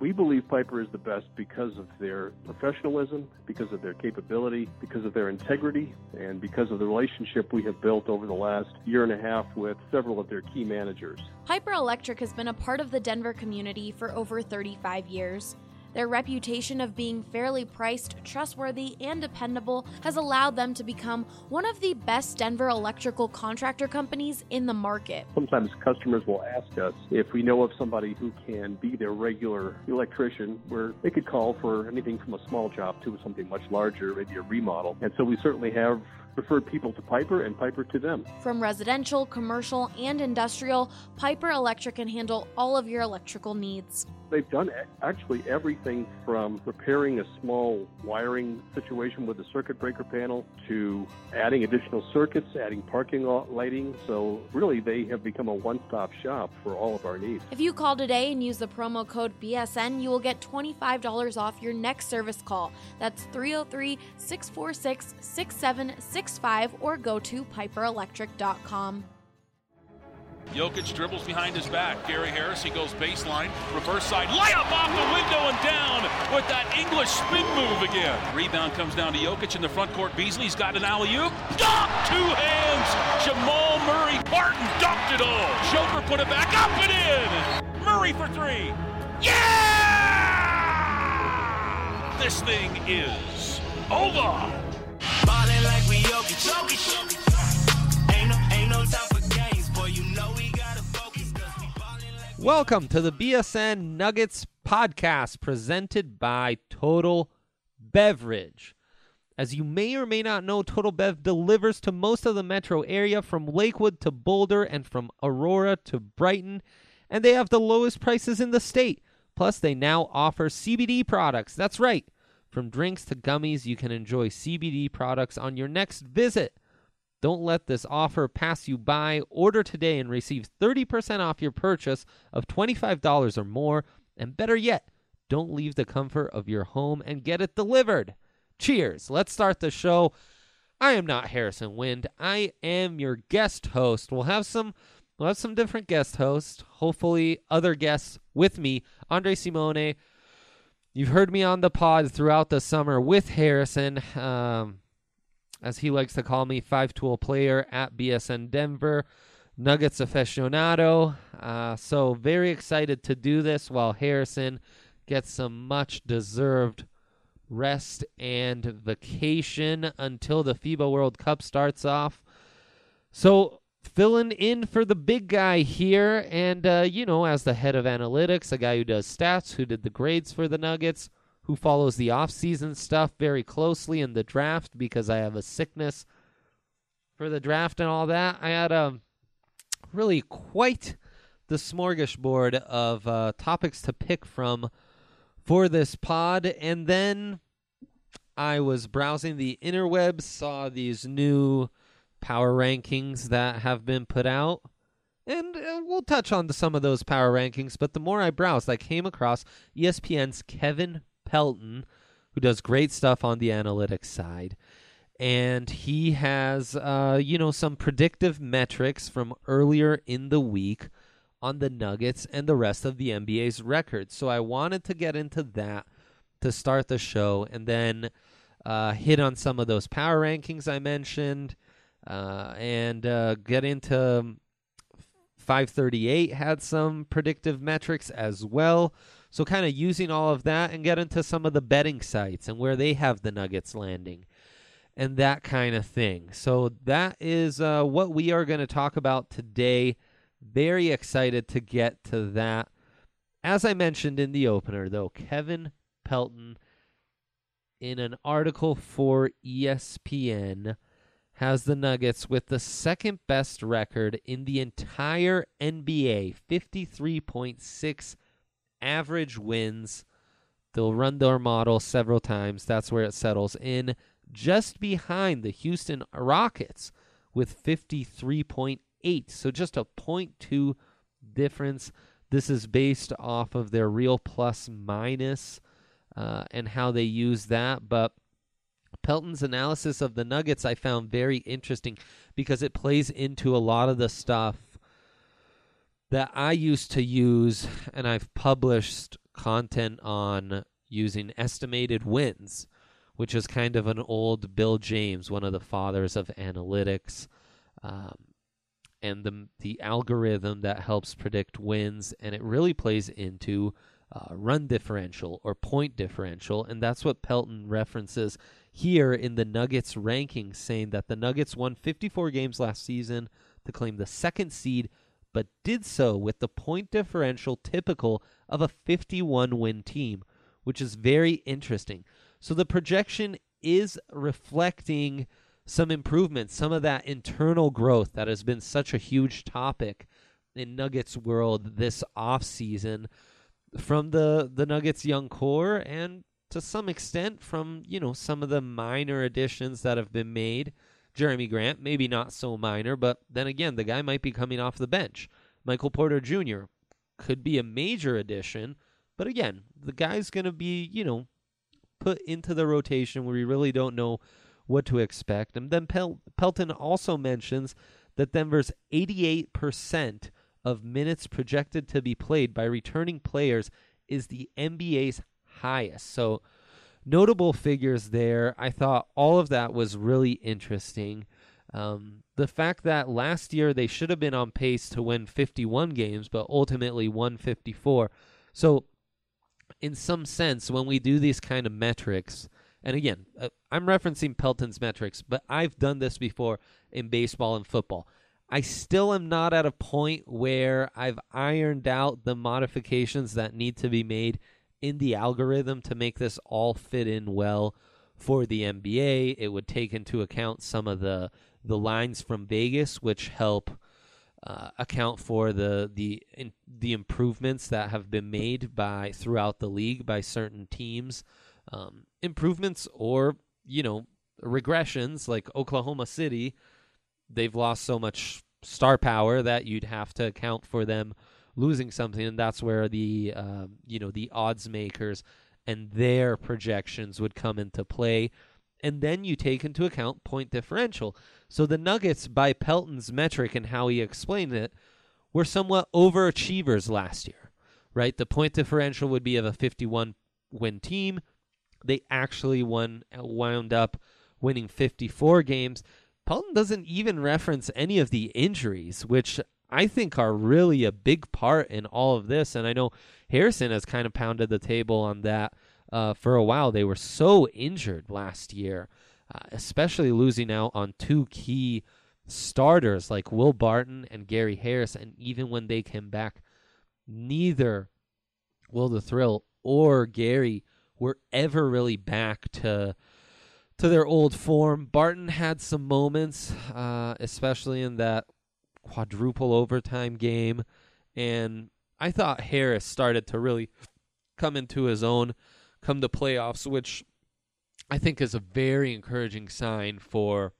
We believe Piper is the best because of their professionalism, because of their capability, because of their integrity, and because of the relationship we have built over the last year and a half with several of their key managers. Piper Electric has been a part of the Denver community for over 35 years. Their reputation of being fairly priced, trustworthy, and dependable has allowed them to become one of the best Denver electrical contractor companies in the market. Sometimes customers will ask us if we know of somebody who can be their regular electrician, where they could call for anything from a small job to something much larger, maybe a remodel. And so we certainly have referred people to Piper and Piper to them. From residential, commercial, and industrial, Piper Electric can handle all of your electrical needs. They've done actually everything from repairing a small wiring situation with a circuit breaker panel to adding additional circuits, adding parking lot lighting. So really, they have become a one-stop shop for all of our needs. If you call today and use the promo code BSN, you will get $25 off your next service call. That's 303-646-6765 or go to piperelectric.com. Jokic dribbles behind his back. Gary Harris, he goes baseline, reverse side, layup off the window and down with that English spin move again. Rebound comes down to Jokic in the front court. Beasley's got an alley-oop. Dunk! Two hands! Jamal Murray. Barton dunked it all. Joker put it back up and in. Murray for three. Yeah! This thing is over. Ballin' like we Jokic. Ain't no time for games, boy. You know we gotta focus 'cause we ballin' like. Welcome to the BSN Nuggets podcast presented by Total Beverage. As you may or may not know, Total Bev delivers to most of the metro area, from Lakewood to Boulder and from Aurora to Brighton, and they have the lowest prices in the state. Plus, they now offer CBD products. That's right. From drinks to gummies, you can enjoy CBD products on your next visit. Don't let this offer pass you by. Order today and receive 30% off your purchase of $25 or more. And better yet, don't leave the comfort of your home and get it delivered. Cheers. Let's start the show. I am not Harrison Wind. I am your guest host. We'll have some different guest hosts. Hopefully other guests with me. Andre Simone. You've heard me on the pod throughout the summer with Harrison, as he likes to call me, five-tool player at BSN Denver, Nuggets aficionado. So very excited to do this while Harrison gets some much-deserved rest and vacation until the FIBA World Cup starts off. So filling in for the big guy here, and, as the head of analytics, a guy who does stats, who did the grades for the Nuggets, who follows the off-season stuff very closely in the draft because I have a sickness for the draft and all that. I had really quite the smorgasbord of topics to pick from for this pod, and then I was browsing the interwebs, saw these new power rankings that have been put out, and we'll touch on some of those power rankings, but the more I browsed, I came across ESPN's Kevin Pelton, who does great stuff on the analytics side, and he has some predictive metrics from earlier in the week on the Nuggets and the rest of the NBA's records. So I wanted to get into that to start the show, and then hit on some of those power rankings I mentioned, and get into 538 had some predictive metrics as well. So kind of using all of that and get into some of the betting sites and where they have the Nuggets landing and that kind of thing. So that is what we are going to talk about today. Very excited to get to that. As I mentioned in the opener, though, Kevin Pelton, in an article for ESPN, has the Nuggets with the second best record in the entire NBA, 53.6 average wins. They'll run their model several times. That's where it settles in, just behind the Houston Rockets with 53.8. So just a 0.2 difference. This is based off of their real plus minus and how they use that. But Pelton's analysis of the Nuggets I found very interesting because it plays into a lot of the stuff that I used to use and I've published content on using estimated wins, which is kind of an old Bill James, one of the fathers of analytics, and the algorithm that helps predict wins, and it really plays into run differential or point differential, and that's what Pelton references here in the Nuggets rankings, saying that the Nuggets won 54 games last season to claim the second seed, but did so with the point differential typical of a 51-win team, which is very interesting. So the projection is reflecting some improvements, some of that internal growth that has been such a huge topic in Nuggets world this offseason from the Nuggets young core, and to some extent from, some of the minor additions that have been made. Jeremy Grant, maybe not so minor, but then again, the guy might be coming off the bench. Michael Porter Jr. could be a major addition, but again, the guy's going to be, put into the rotation where we really don't know what to expect. And then Pelton also mentions that Denver's 88% of minutes projected to be played by returning players is the NBA's highest. So notable figures there. I thought all of that was really interesting. The fact that last year they should have been on pace to win 51 games, but ultimately won 54. So in some sense, when we do these kind of metrics, and again, I'm referencing Pelton's metrics, but I've done this before in baseball and football. I still am not at a point where I've ironed out the modifications that need to be made in the algorithm to make this all fit in well for the NBA. It would take into account some of the lines from Vegas, which help account for the improvements that have been made throughout the league by certain teams. Improvements or, regressions, like Oklahoma City. They've lost so much star power that you'd have to account for them losing something, and that's where the odds makers and their projections would come into play. And then you take into account point differential. So the Nuggets, by Pelton's metric and how he explained it, were somewhat overachievers last year, right? The point differential would be of a 51-win team. They actually wound up winning 54 games. Pelton doesn't even reference any of the injuries, which I think are really a big part in all of this. And I know Harrison has kind of pounded the table on that for a while. They were so injured last year, especially losing out on two key starters like Will Barton and Gary Harris. And even when they came back, neither Will the Thrill or Gary were ever really back to their old form. Barton had some moments, especially in that quadruple overtime game, and I thought Harris started to really come into his own come the playoffs, which I think is a very encouraging sign for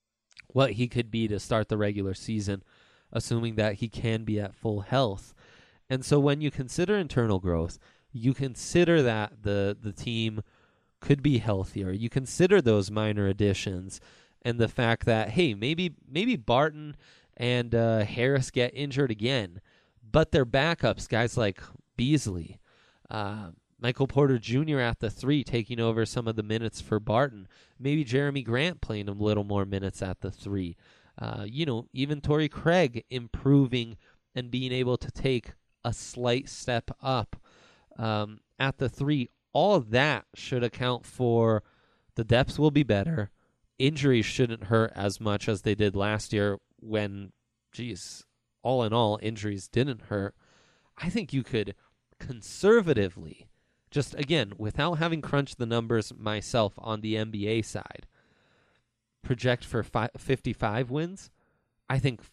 what he could be to start the regular season, assuming that he can be at full health. And so when you consider internal growth, you consider that the team could be healthier. You consider those minor additions and the fact that, hey, maybe Barton and Harris get injured again, but their backups, guys like Beasley, Michael Porter Jr. at the 3 taking over some of the minutes for Barton, maybe Jeremy Grant playing a little more minutes at the 3, even Torrey Craig improving and being able to take a slight step up at the 3. All of that should account for the depth will be better. Injuries shouldn't hurt as much as they did last year when, all in all, injuries didn't hurt. I think you could conservatively, just again, without having crunched the numbers myself on the NBA side, project for 55 wins. I think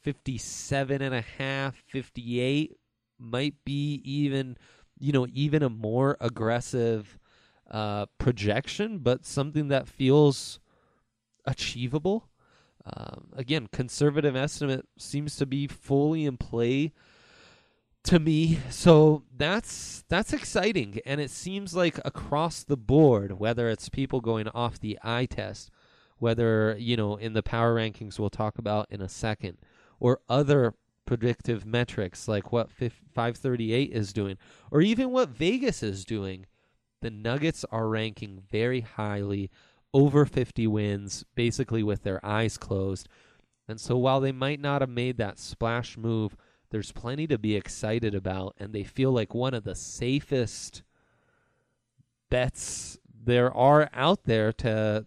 57.5, 58 might be even a more aggressive projection, but something that feels achievable. Again, conservative estimate seems to be fully in play to me. So that's exciting. And it seems like across the board, whether it's people going off the eye test, whether, in the power rankings we'll talk about in a second, or other predictive metrics like what 538 is doing, or even what Vegas is doing, the Nuggets are ranking very highly, over 50 wins, basically with their eyes closed. And so while they might not have made that splash move, there's plenty to be excited about, and they feel like one of the safest bets there are out there to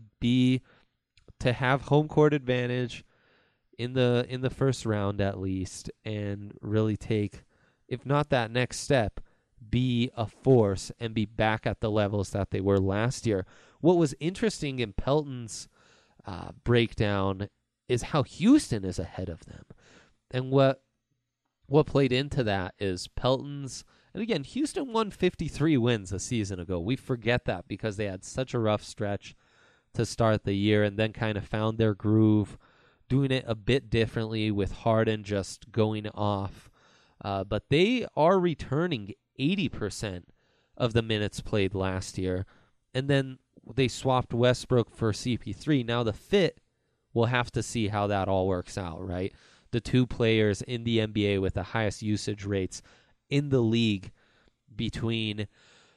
have home court advantage in the first round at least, and really take, if not that next step, be a force and be back at the levels that they were last year. What was interesting in Pelton's breakdown is how Houston is ahead of them. And what played into that is Pelton's, and again, Houston won 53 wins a season ago. We forget that because they had such a rough stretch to start the year and then kind of found their groove, doing it a bit differently with Harden just going off. But they are returning 80% of the minutes played last year. And then they swapped Westbrook for CP3. Now the fit, we'll have to see how that all works out, right? The two players in the NBA with the highest usage rates in the league between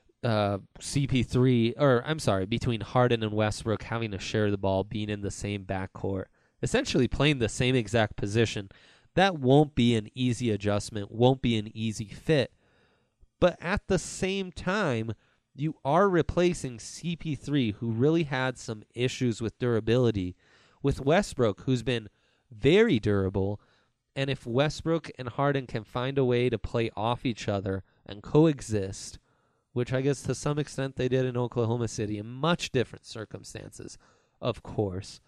between Harden and Westbrook having to share the ball, being in the same backcourt, essentially playing the same exact position. That won't be an easy adjustment, won't be an easy fit. But at the same time, you are replacing CP3, who really had some issues with durability, with Westbrook, who's been very durable. And if Westbrook and Harden can find a way to play off each other and coexist, which I guess to some extent they did in Oklahoma City in much different circumstances, of course,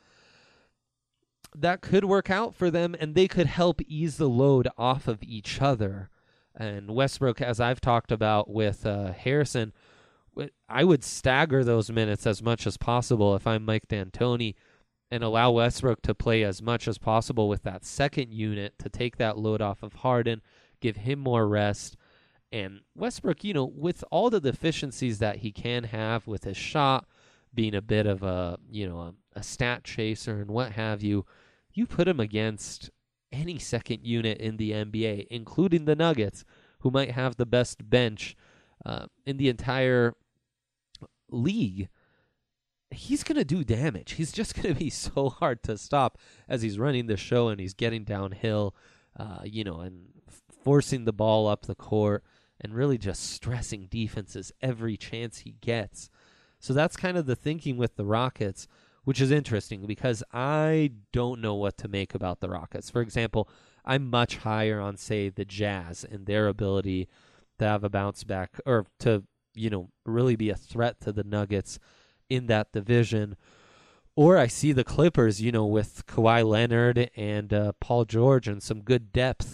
that could work out for them, and they could help ease the load off of each other. And Westbrook, as I've talked about with Harrison, I would stagger those minutes as much as possible if I'm Mike D'Antoni, and allow Westbrook to play as much as possible with that second unit to take that load off of Harden, give him more rest. And Westbrook, with all the deficiencies that he can have with his shot, being a bit of a stat chaser and what have you, you put him against any second unit in the NBA, including the Nuggets, who might have the best bench in the entire league. He's going to do damage. He's just going to be so hard to stop as he's running the show and he's getting downhill, and forcing the ball up the court and really just stressing defenses every chance he gets. So that's kind of the thinking with the Rockets, which is interesting because I don't know what to make about the Rockets. For example, I'm much higher on, say, the Jazz and their ability to have a bounce back, or to, really be a threat to the Nuggets in that division. Or I see the Clippers, with Kawhi Leonard and Paul George and some good depth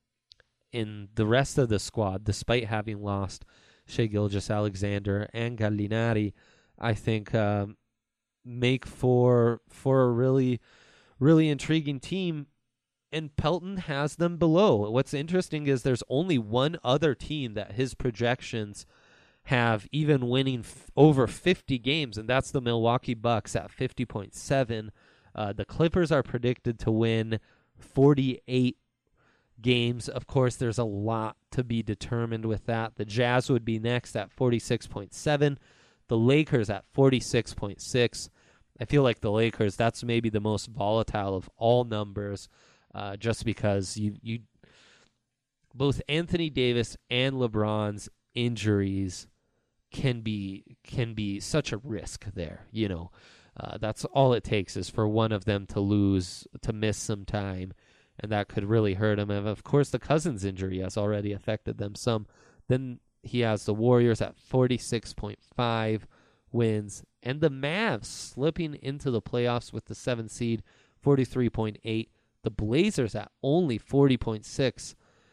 in the rest of the squad, despite having lost Shai Gilgeous-Alexander and Gallinari. I think make for a really, really intriguing team, and Pelton has them below. What's interesting is there's only one other team that his projections have even winning over 50 games, and that's the Milwaukee Bucks at 50.7. The Clippers are predicted to win 48 games. Of course, there's a lot to be determined with that. The Jazz would be next at 46.7. The Lakers at 46.6. I feel like the Lakers, that's maybe the most volatile of all numbers, just because you both Anthony Davis and LeBron's injuries can be such a risk there. That's all it takes is for one of them to miss some time, and that could really hurt them. And of course, the Cousins injury has already affected them some. Then he has the Warriors at 46.5 wins, and the Mavs slipping into the playoffs with the 7th seed, 43.8. The Blazers at only 40.6.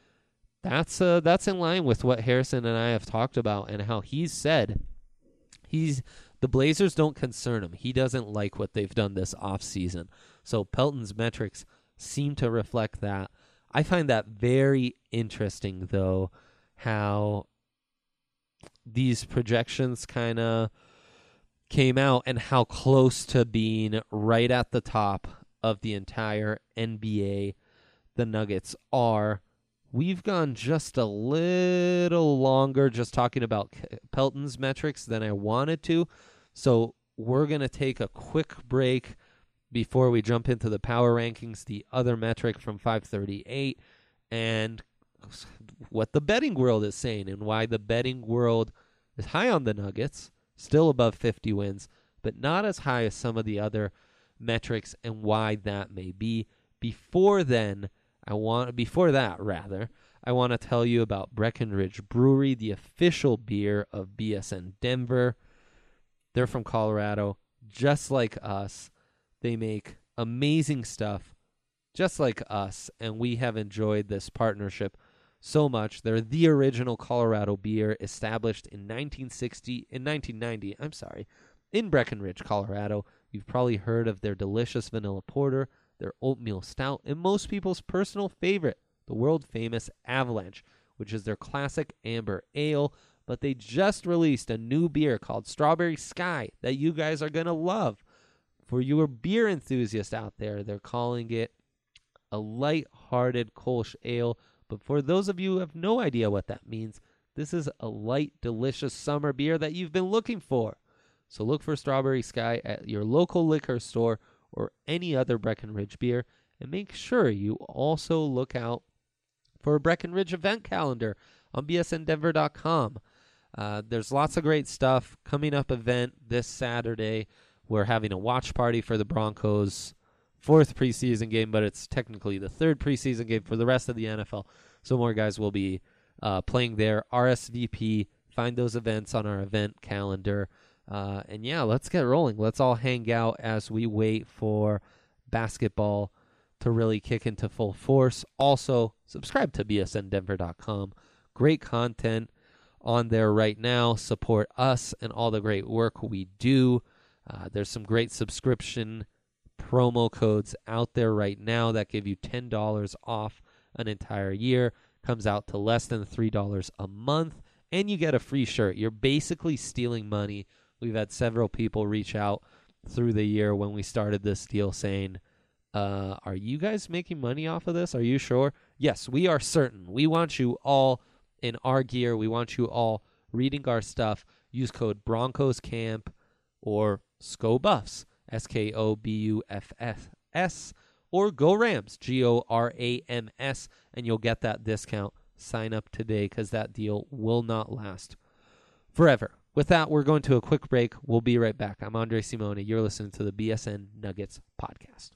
That's in line with what Harrison and I have talked about, and how he's said the Blazers don't concern him. He doesn't like what they've done this offseason. So Pelton's metrics seem to reflect that. I find that very interesting, though, how these projections kind of came out and how close to being right at the top of the entire NBA the Nuggets are. We've gone just a little longer just talking about Pelton's metrics than I wanted to. So we're going to take a quick break before we jump into the power rankings, the other metric from 538, and what the betting world is saying and why the betting world is high on the Nuggets, still above 50 wins, but not as high as some of the other metrics and why that may be. Before that, I want to tell you about Breckenridge Brewery, the official beer of BSN Denver. They're from Colorado, just like us. They make amazing stuff, just like us, and we have enjoyed this partnership so much. They're the original Colorado beer, established in 1990, in Breckenridge, Colorado. You've probably heard of their delicious vanilla porter, their oatmeal stout, and most people's personal favorite, the world-famous Avalanche, which is their classic amber ale. But they just released a new beer called Strawberry Sky that you guys are going to love. For your beer enthusiasts out there, they're calling it a light-hearted Kolsch ale. But for those of you who have no idea what that means, this is a light, delicious summer beer that you've been looking for. So look for Strawberry Sky at your local liquor store or any other Breckenridge beer. And make sure you also look out for a Breckenridge event calendar on bsndenver.com. There's lots of great stuff. Coming up event this Saturday, we're having a watch party for the Broncos' 4th preseason game, but it's technically the 3rd preseason game for the rest of the NFL. So more guys will be playing there. RSVP, find those events on our event calendar. And yeah, let's get rolling. Let's all hang out as we wait for basketball to really kick into full force. Also, subscribe to bsndenver.com. Great content on there right now. Support us and all the great work we do. There's some great subscription promo codes out there right now that give you $10 off an entire year. Comes out to less than $3 a month, and you get a free shirt. You're basically stealing money. We've had several people reach out through the year when we started this deal saying, are you guys making money off of this? Are you sure? Yes, we are certain. We want you all in our gear. We want you all reading our stuff. Use code BroncosCamp or SCOBuffs, SKOBUFFS, or Go Rams, GORAMS, and you'll get that discount. Sign up today because that deal will not last forever. With that, we're going to a quick break. We'll be right back. I'm Andre Simone. You're listening to the BSN Nuggets podcast.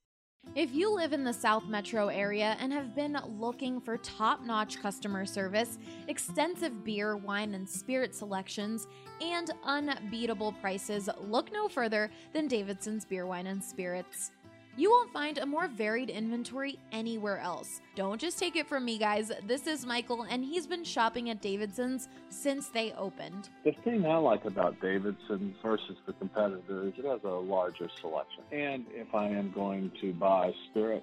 If you live in the South Metro area and have been looking for top-notch customer service, extensive beer, wine, and spirit selections, and unbeatable prices, look no further than Davidson's Beer, Wine, and Spirits. You won't find a more varied inventory anywhere else. Don't just take it from me, guys. This is Michael, and he's been shopping at Davidson's since they opened. The thing I like about Davidson's versus the competitors, it has a larger selection. And if I am going to buy spirit,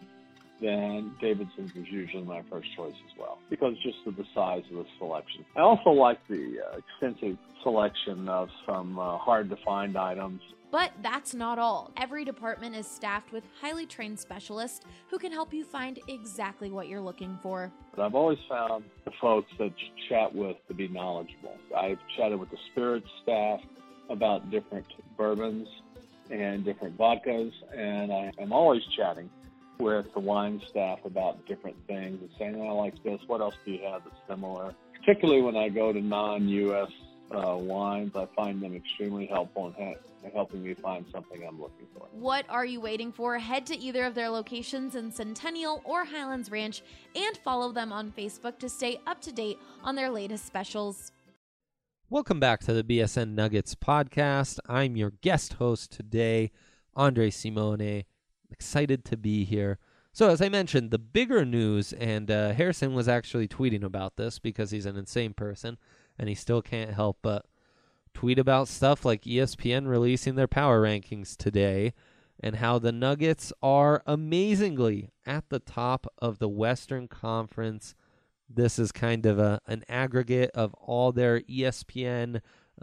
then Davidson's is usually my first choice as well, because just of the size of the selection. I also like the extensive selection of some hard-to-find items. But that's not all. Every department is staffed with highly trained specialists who can help you find exactly what you're looking for. But I've always found the folks that you chat with to be knowledgeable. I've chatted with the spirits staff about different bourbons and different vodkas, and I am always chatting with the wine staff about different things and saying, I like this, what else do you have that's similar? Particularly when I go to non-U.S. Wines, I find them extremely helpful in helping me find something I'm looking for. What are you waiting for? Head to either of their locations in Centennial or Highlands Ranch and follow them on Facebook to stay up to date on their latest specials. Welcome back to the BSN Nuggets podcast. I'm your guest host today, Andre Simone. Excited to be here. So as I mentioned, the bigger news, and Harrison was actually tweeting about this because he's an insane person, and he still can't help but tweet about stuff like ESPN releasing their power rankings today and how the Nuggets are amazingly at the top of the Western Conference. This is kind of an aggregate of all their ESPN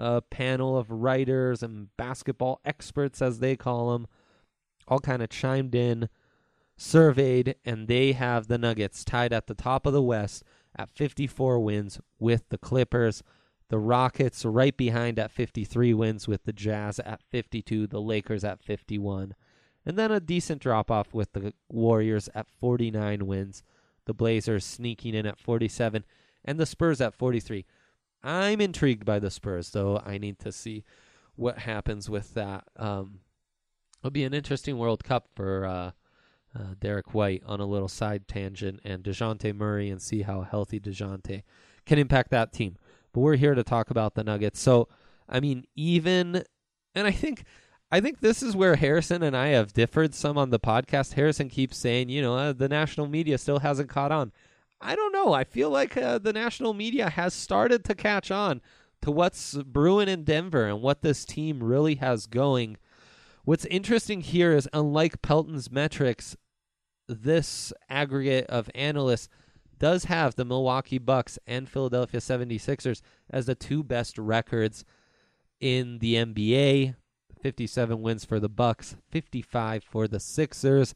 panel of writers and basketball experts, as they call them, all kind of chimed in, surveyed, and they have the Nuggets tied at the top of the West at 54 wins with the Clippers. The Rockets right behind at 53 wins with the Jazz at 52, the Lakers at 51. And then a decent drop-off with the Warriors at 49 wins, the Blazers sneaking in at 47, and the Spurs at 43. I'm intrigued by the Spurs, though. I need to see what happens with that. It'll be an interesting World Cup for Derek White on a little side tangent, and DeJounte Murray, and see how healthy DeJounte can impact that team. But we're here to talk about the Nuggets. So, I mean, and I think this is where Harrison and I have differed some on the podcast. Harrison keeps saying, the national media still hasn't caught on. I don't know. I feel like the national media has started to catch on to what's brewing in Denver and what this team really has going. What's interesting here is, unlike Pelton's metrics, this aggregate of analysts does have the Milwaukee Bucks and Philadelphia 76ers as the two best records in the NBA. 57 wins for the Bucks, 55 for the Sixers.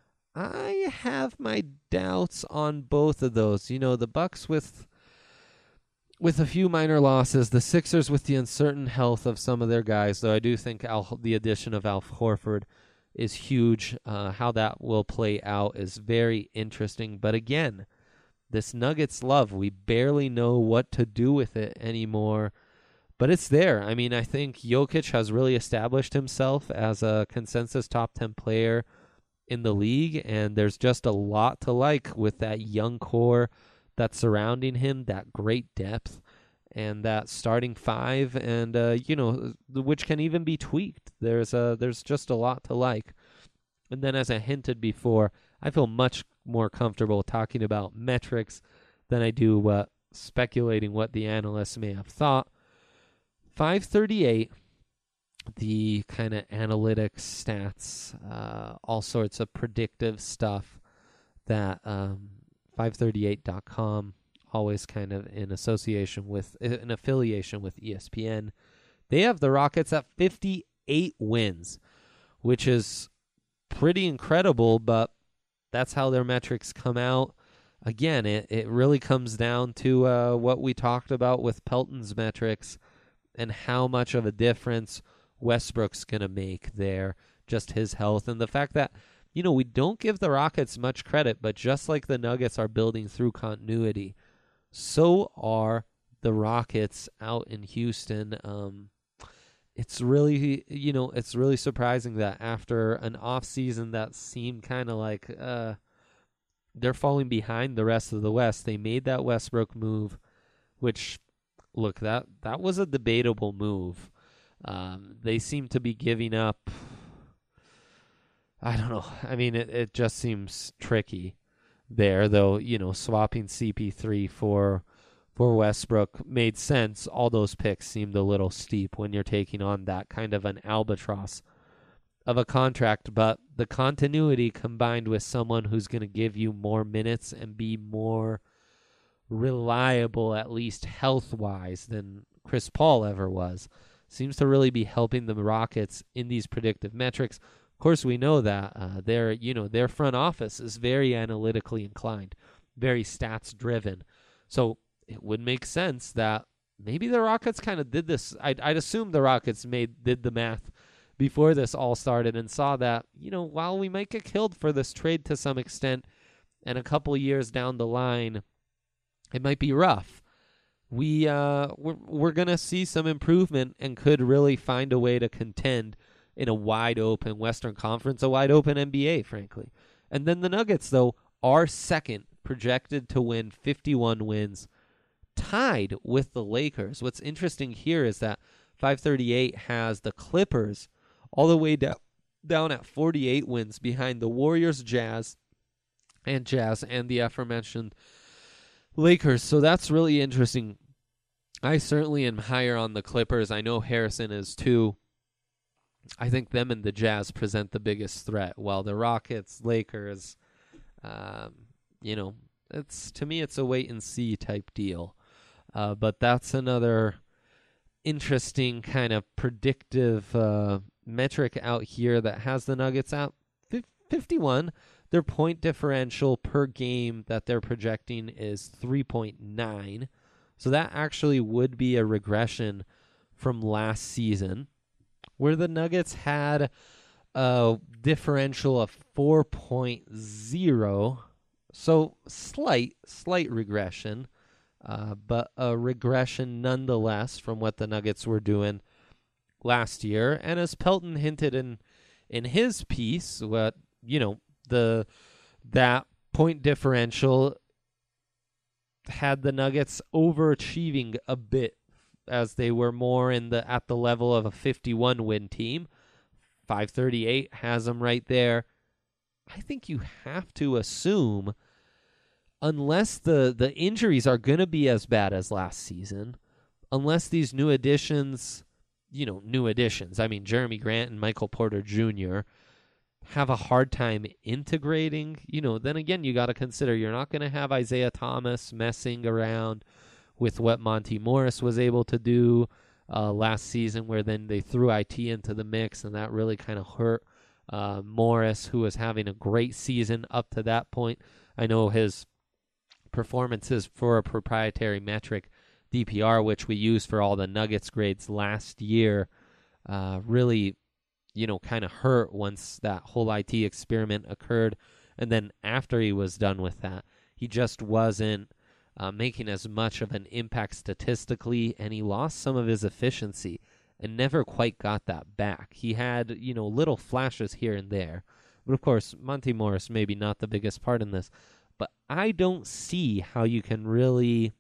I have my doubts on both of those. The Bucks with a few minor losses, the Sixers with the uncertain health of some of their guys, though I do think the addition of Al Horford is huge. How that will play out is very interesting. But again, this Nuggets love, we barely know what to do with it anymore. But it's there. I mean, I think Jokic has really established himself as a consensus top 10 player in the league, and there's just a lot to like with that young core that's surrounding him, that great depth, and that starting five, and which can even be tweaked. There's just a lot to like. And then, as I hinted before, I feel much more comfortable talking about metrics than I do speculating what the analysts may have thought. 538, the kind of analytics, stats, all sorts of predictive stuff that 538.com, always kind of in affiliation with ESPN. They have the Rockets at 58 wins, which is pretty incredible, but that's how their metrics come out. Again, it really comes down to what we talked about with Pelton's metrics and how much of a difference Westbrook's going to make there, just his health, and the fact that, we don't give the Rockets much credit, but just like the Nuggets are building through continuity, so are the Rockets out in Houston. It's really, it's really surprising that after an off season that seemed kind of like they're falling behind the rest of the West, they made that Westbrook move, which, look, that was a debatable move. They seem to be giving up. I don't know. I mean, it just seems tricky there, though. Swapping CP3 for Westbrook made sense. All those picks seemed a little steep when you're taking on that kind of an albatross of a contract. But the continuity combined with someone who's going to give you more minutes and be more reliable, at least health-wise, than Chris Paul ever was, seems to really be helping the Rockets in these predictive metrics. Of course, we know that their front office is very analytically inclined, very stats-driven. So it would make sense that maybe the Rockets kind of did this. I'd assume the Rockets did the math before this all started and saw that, while we might get killed for this trade to some extent, and a couple years down the line, it might be rough. We're gonna see some improvement and could really find a way to contend in a wide open Western Conference, a wide open NBA, frankly. And then the Nuggets, though, are second, projected to win 51 wins, tied with the Lakers. What's interesting here is that 538 has the Clippers all the way down at 48 wins behind the Warriors, Jazz, and the aforementioned Lakers. So that's really interesting. I certainly am higher on the Clippers. I know Harrison is too. I think them and the Jazz present the biggest threat, while the Rockets, Lakers, to me it's a wait and see type deal. But that's another interesting kind of predictive metric out here that has the Nuggets out 51. Their point differential per game that they're projecting is 3.9. So that actually would be a regression from last season, where the Nuggets had a differential of 4.0. So slight regression, but a regression nonetheless from what the Nuggets were doing last year. And as Pelton hinted in his piece, that point differential had the Nuggets overachieving a bit, as they were more at the level of a 51 win team. 538 has them right there. I think you have to assume, unless the injuries are going to be as bad as last season, unless these new additions, I mean, Jeremy Grant and Michael Porter Jr. have a hard time integrating, then again, you got to consider you're not going to have Isaiah Thomas messing around with what Monty Morris was able to do last season, where then they threw IT into the mix, and that really kind of hurt Morris, who was having a great season up to that point. I know his performances for a proprietary metric, DPR, which we used for all the Nuggets grades last year, really, kind of hurt once that whole IT experiment occurred. And then after he was done with that, he just wasn't making as much of an impact statistically, and he lost some of his efficiency and never quite got that back. He had, little flashes here and there. But of course, Monty Morris maybe not the biggest part in this. But I don't see how you can really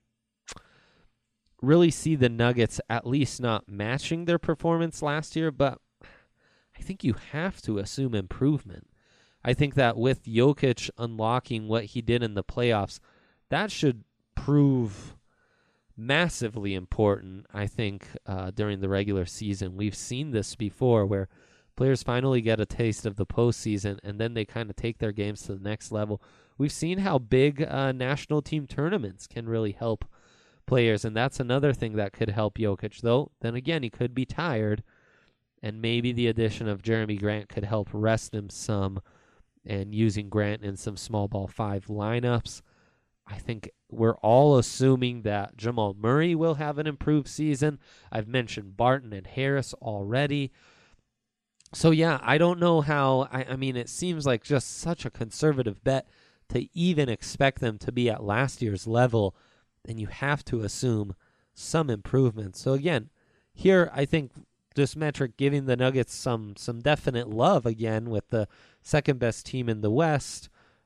see the Nuggets at least not matching their performance last year, but I think you have to assume improvement. I think that with Jokic unlocking what he did in the playoffs, that should prove massively important, I think, during the regular season. We've seen this before where players finally get a taste of the postseason and then they kind of take their games to the next level. We've seen how big national team tournaments can really help players, and that's another thing that could help Jokic, though. Then again, he could be tired, and maybe the addition of Jeremy Grant could help rest him some, and using Grant in some small ball 5 lineups. I think we're all assuming that Jamal Murray will have an improved season. I've mentioned Barton and Harris already. So, yeah, I don't know how. I mean, it seems like just such a conservative bet to even expect them to be at last year's level, and you have to assume some improvement. So, again, here I think this metric giving the Nuggets some definite love again, with the second best team in the West,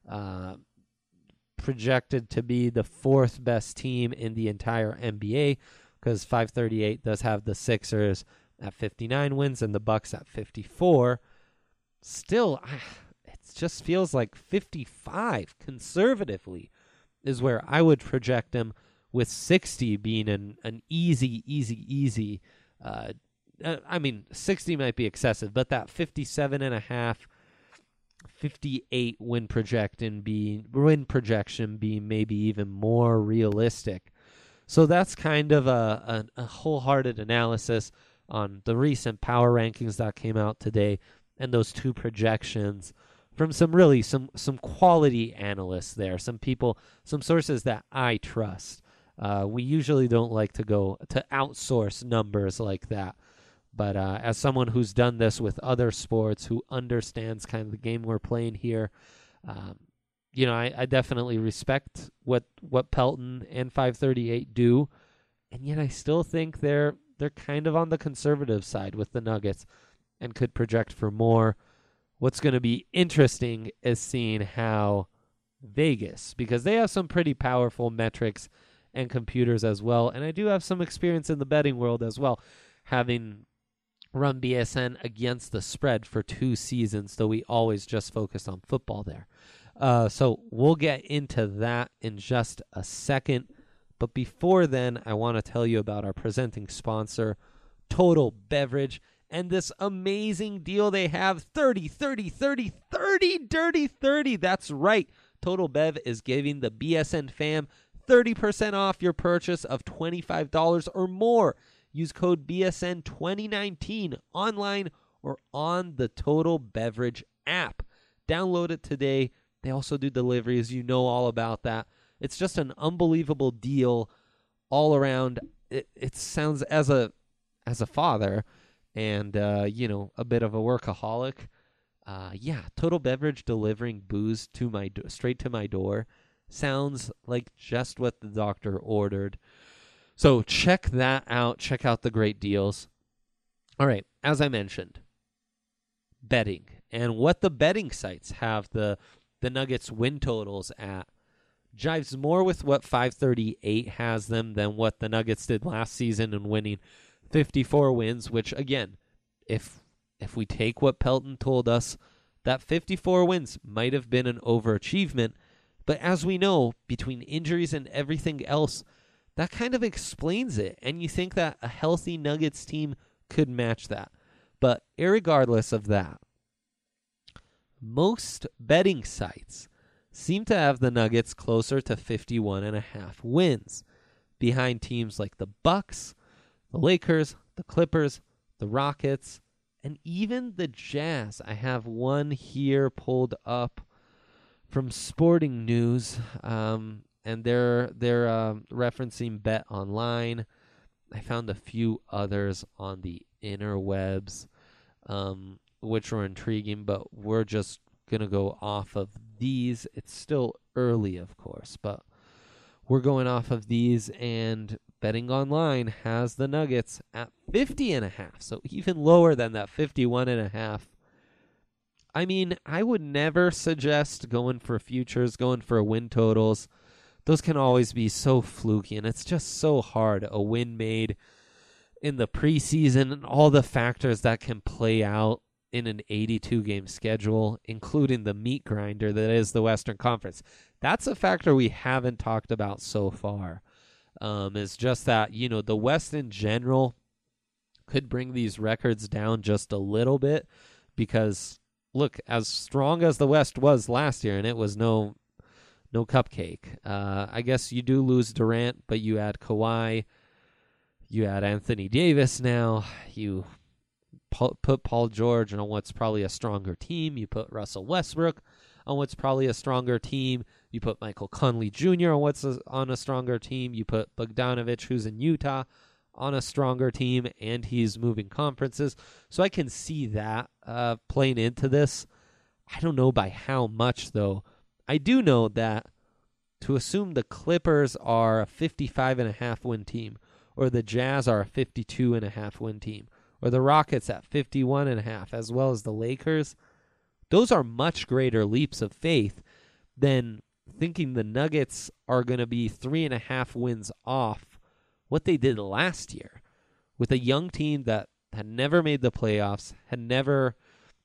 projected to be the 4th best team in the entire NBA, because 538 does have the Sixers at 59 wins and the Bucks at 54. Still, it just feels like 55 conservatively is where I would project them, with 60 being an easy. I mean, 60 might be excessive, but that 57.5, 58 win projection being maybe even more realistic. So that's kind of a wholehearted analysis on the recent power rankings that came out today, and those two projections from some quality analysts there, some people, some sources that I trust. We usually don't like to go to outsource numbers like that. But as someone who's done this with other sports, who understands kind of the game we're playing here, I definitely respect what Pelton and 538 do. And yet I still think they're kind of on the conservative side with the Nuggets and could project for more. What's going to be interesting is seeing how Vegas, because they have some pretty powerful metrics and computers as well. And I do have some experience in the betting world as well, having run BSN against the spread for 2 seasons, though we always just focus on football there. So we'll get into that in just a second. But before then, I want to tell you about our presenting sponsor, Total Beverage, and this amazing deal they have, 30, dirty 30. That's right. Total Bev is giving the BSN fam 30% off your purchase of $25 or more. Use code BSN2019 online or on the Total Beverage app. Download it today. They also do deliveries. You know all about that. It's just an unbelievable deal all around. It sounds, as a father and, a bit of a workaholic, Total Beverage delivering booze to straight to my door sounds like just what the doctor ordered. So check that out. Check out the great deals. All right, as I mentioned, betting and what the betting sites have the Nuggets win totals at jives more with what 538 has them than what the Nuggets did last season in winning 54 wins, which, again, if we take what Pelton told us, that 54 wins might have been an overachievement. But as we know, between injuries and everything else, that kind of explains it. And you think that a healthy Nuggets team could match that. But irregardless of that, most betting sites seem to have the Nuggets closer to 51.5 wins, behind teams like the Bucks, the Lakers, the Clippers, the Rockets, and even the Jazz. I have one here pulled up from Sporting News, and they're referencing Bet Online. I found a few others on the interwebs, which were intriguing, but we're just going to go off of these. It's still early, of course, but we're going off of these, and Betting Online has the Nuggets at 50.5, so even lower than that 51.5. I mean, I would never suggest going for futures, going for win totals. Those can always be so fluky, and it's just so hard. A win made in the preseason and all the factors that can play out in an 82-game schedule, including the meat grinder that is the Western Conference. That's a factor we haven't talked about so far. Is just that, the West in general could bring these records down just a little bit because, look, as strong as the West was last year, and it was no cupcake. I guess you do lose Durant, but you add Kawhi, you add Anthony Davis now, you put Paul George on what's probably a stronger team, you put Russell Westbrook on what's probably a stronger team, you put Michael Conley Jr. on what's on a stronger team, you put Bogdanovich, who's in Utah, on a stronger team, and he's moving conferences. So I can see that playing into this. I don't know by how much, though. I do know that to assume the Clippers are a 55.5 win team, or the Jazz are a 52.5 win team, or the Rockets at 51.5, as well as the Lakers, those are much greater leaps of faith than thinking the Nuggets are going to be 3.5 wins off what they did last year with a young team that had never made the playoffs, had never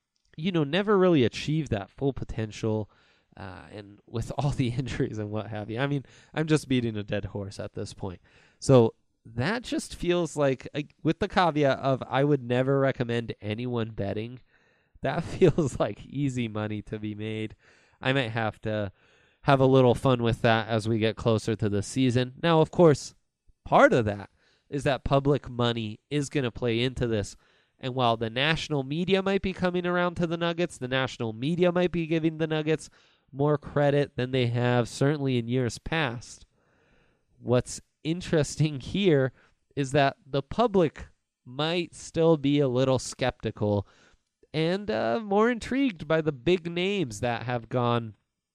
really achieved that full potential, and with all the injuries and what have you. I mean, I'm just beating a dead horse at this point. So that just feels like, with the caveat of I would never recommend anyone betting, that feels like easy money to be made. I might have to have a little fun with that as we get closer to the season. Now, of course, part of that is that public money is going to play into this. And while the national media might be coming around to the Nuggets, the national media might be giving the Nuggets more credit than they have certainly in years past. What's interesting here is that the public might still be a little skeptical and more intrigued by the big names that have gone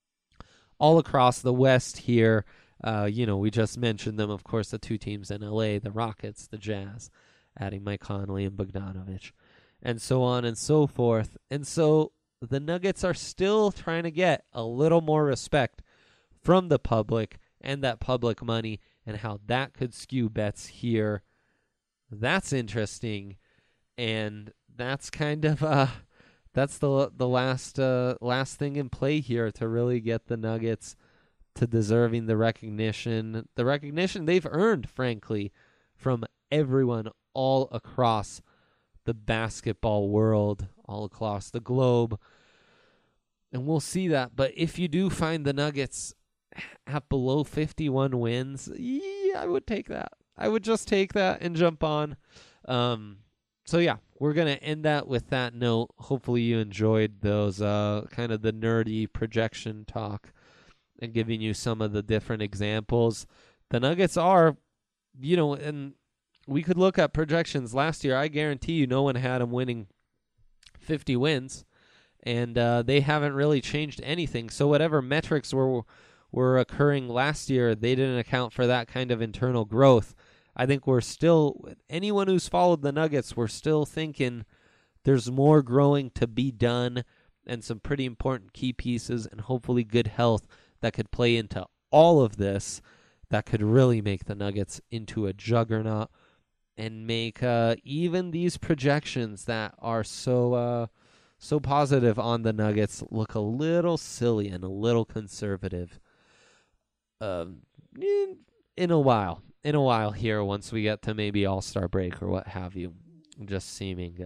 all across the West here. We just mentioned them, of course, the two teams in LA, the Rockets, the Jazz, adding Mike Conley and Bogdanovich, and so on and so forth. And so the Nuggets are still trying to get a little more respect from the public and that public money and how that could skew bets here. That's interesting, and that's kind of that's the last thing in play here to really get the Nuggets to deserving the recognition they've earned, frankly, from everyone all across the basketball world, all across the globe. And we'll see that. But if you do find the Nuggets at below 51 wins, I would take that. I would just take that and jump on. So yeah, we're going to end that with that note. Hopefully you enjoyed those kind of the nerdy projection talk and giving you some of the different examples. The Nuggets are, and we could look at projections last year. I guarantee you no one had them winning 50 wins, and they haven't really changed anything. So whatever metrics were occurring last year, they didn't account for that kind of internal growth. I think we're still, anyone who's followed the Nuggets, we're still thinking there's more growing to be done and some pretty important key pieces and hopefully good health that could play into all of this that could really make the Nuggets into a juggernaut and make even these projections that are so positive on the Nuggets look a little silly and a little conservative in a while. Here, once we get to maybe All-Star break or what have you, just seeming,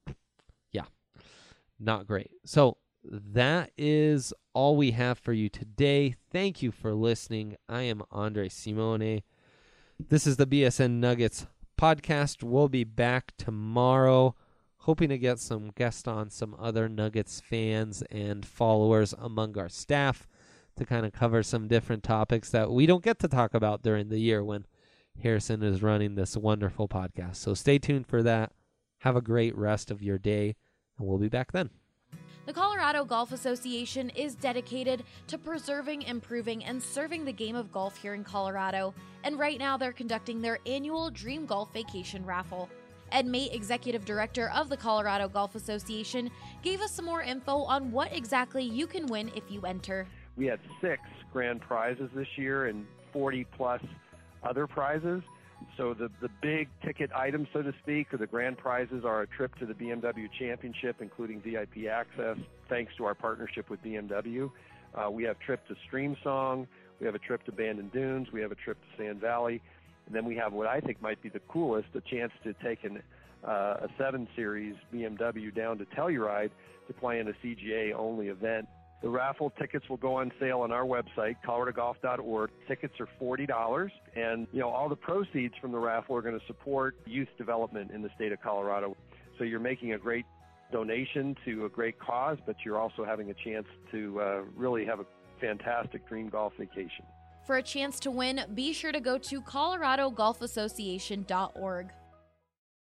not great. So that is all we have for you today. Thank you for listening. I am Andre Simone. This is the BSN Nuggets podcast. We'll be back tomorrow, hoping to get some guests on, some other Nuggets fans and followers among our staff to kind of cover some different topics that we don't get to talk about during the year when Harrison is running this wonderful podcast. So stay tuned for that. Have a great rest of your day, and we'll be back then. The Colorado Golf Association is dedicated to preserving, improving, and serving the game of golf here in Colorado. And right now they're conducting their annual Dream Golf Vacation Raffle. Ed Mate, Executive Director of the Colorado Golf Association, gave us some more info on what exactly you can win if you enter. We had 6 grand prizes this year and 40-plus other prizes. So the big ticket items, so to speak, or the grand prizes are a trip to the BMW Championship, including VIP access, thanks to our partnership with BMW. We have a trip to Streamsong. We have a trip to Bandon Dunes. We have a trip to Sand Valley. And then we have what I think might be the coolest, a chance to take a 7 Series BMW down to Telluride to play in a CGA-only event. The raffle tickets will go on sale on our website, coloradogolf.org. Tickets are $40, and all the proceeds from the raffle are going to support youth development in the state of Colorado. So you're making a great donation to a great cause, but you're also having a chance to really have a fantastic dream golf vacation. For a chance to win, be sure to go to coloradogolfassociation.org.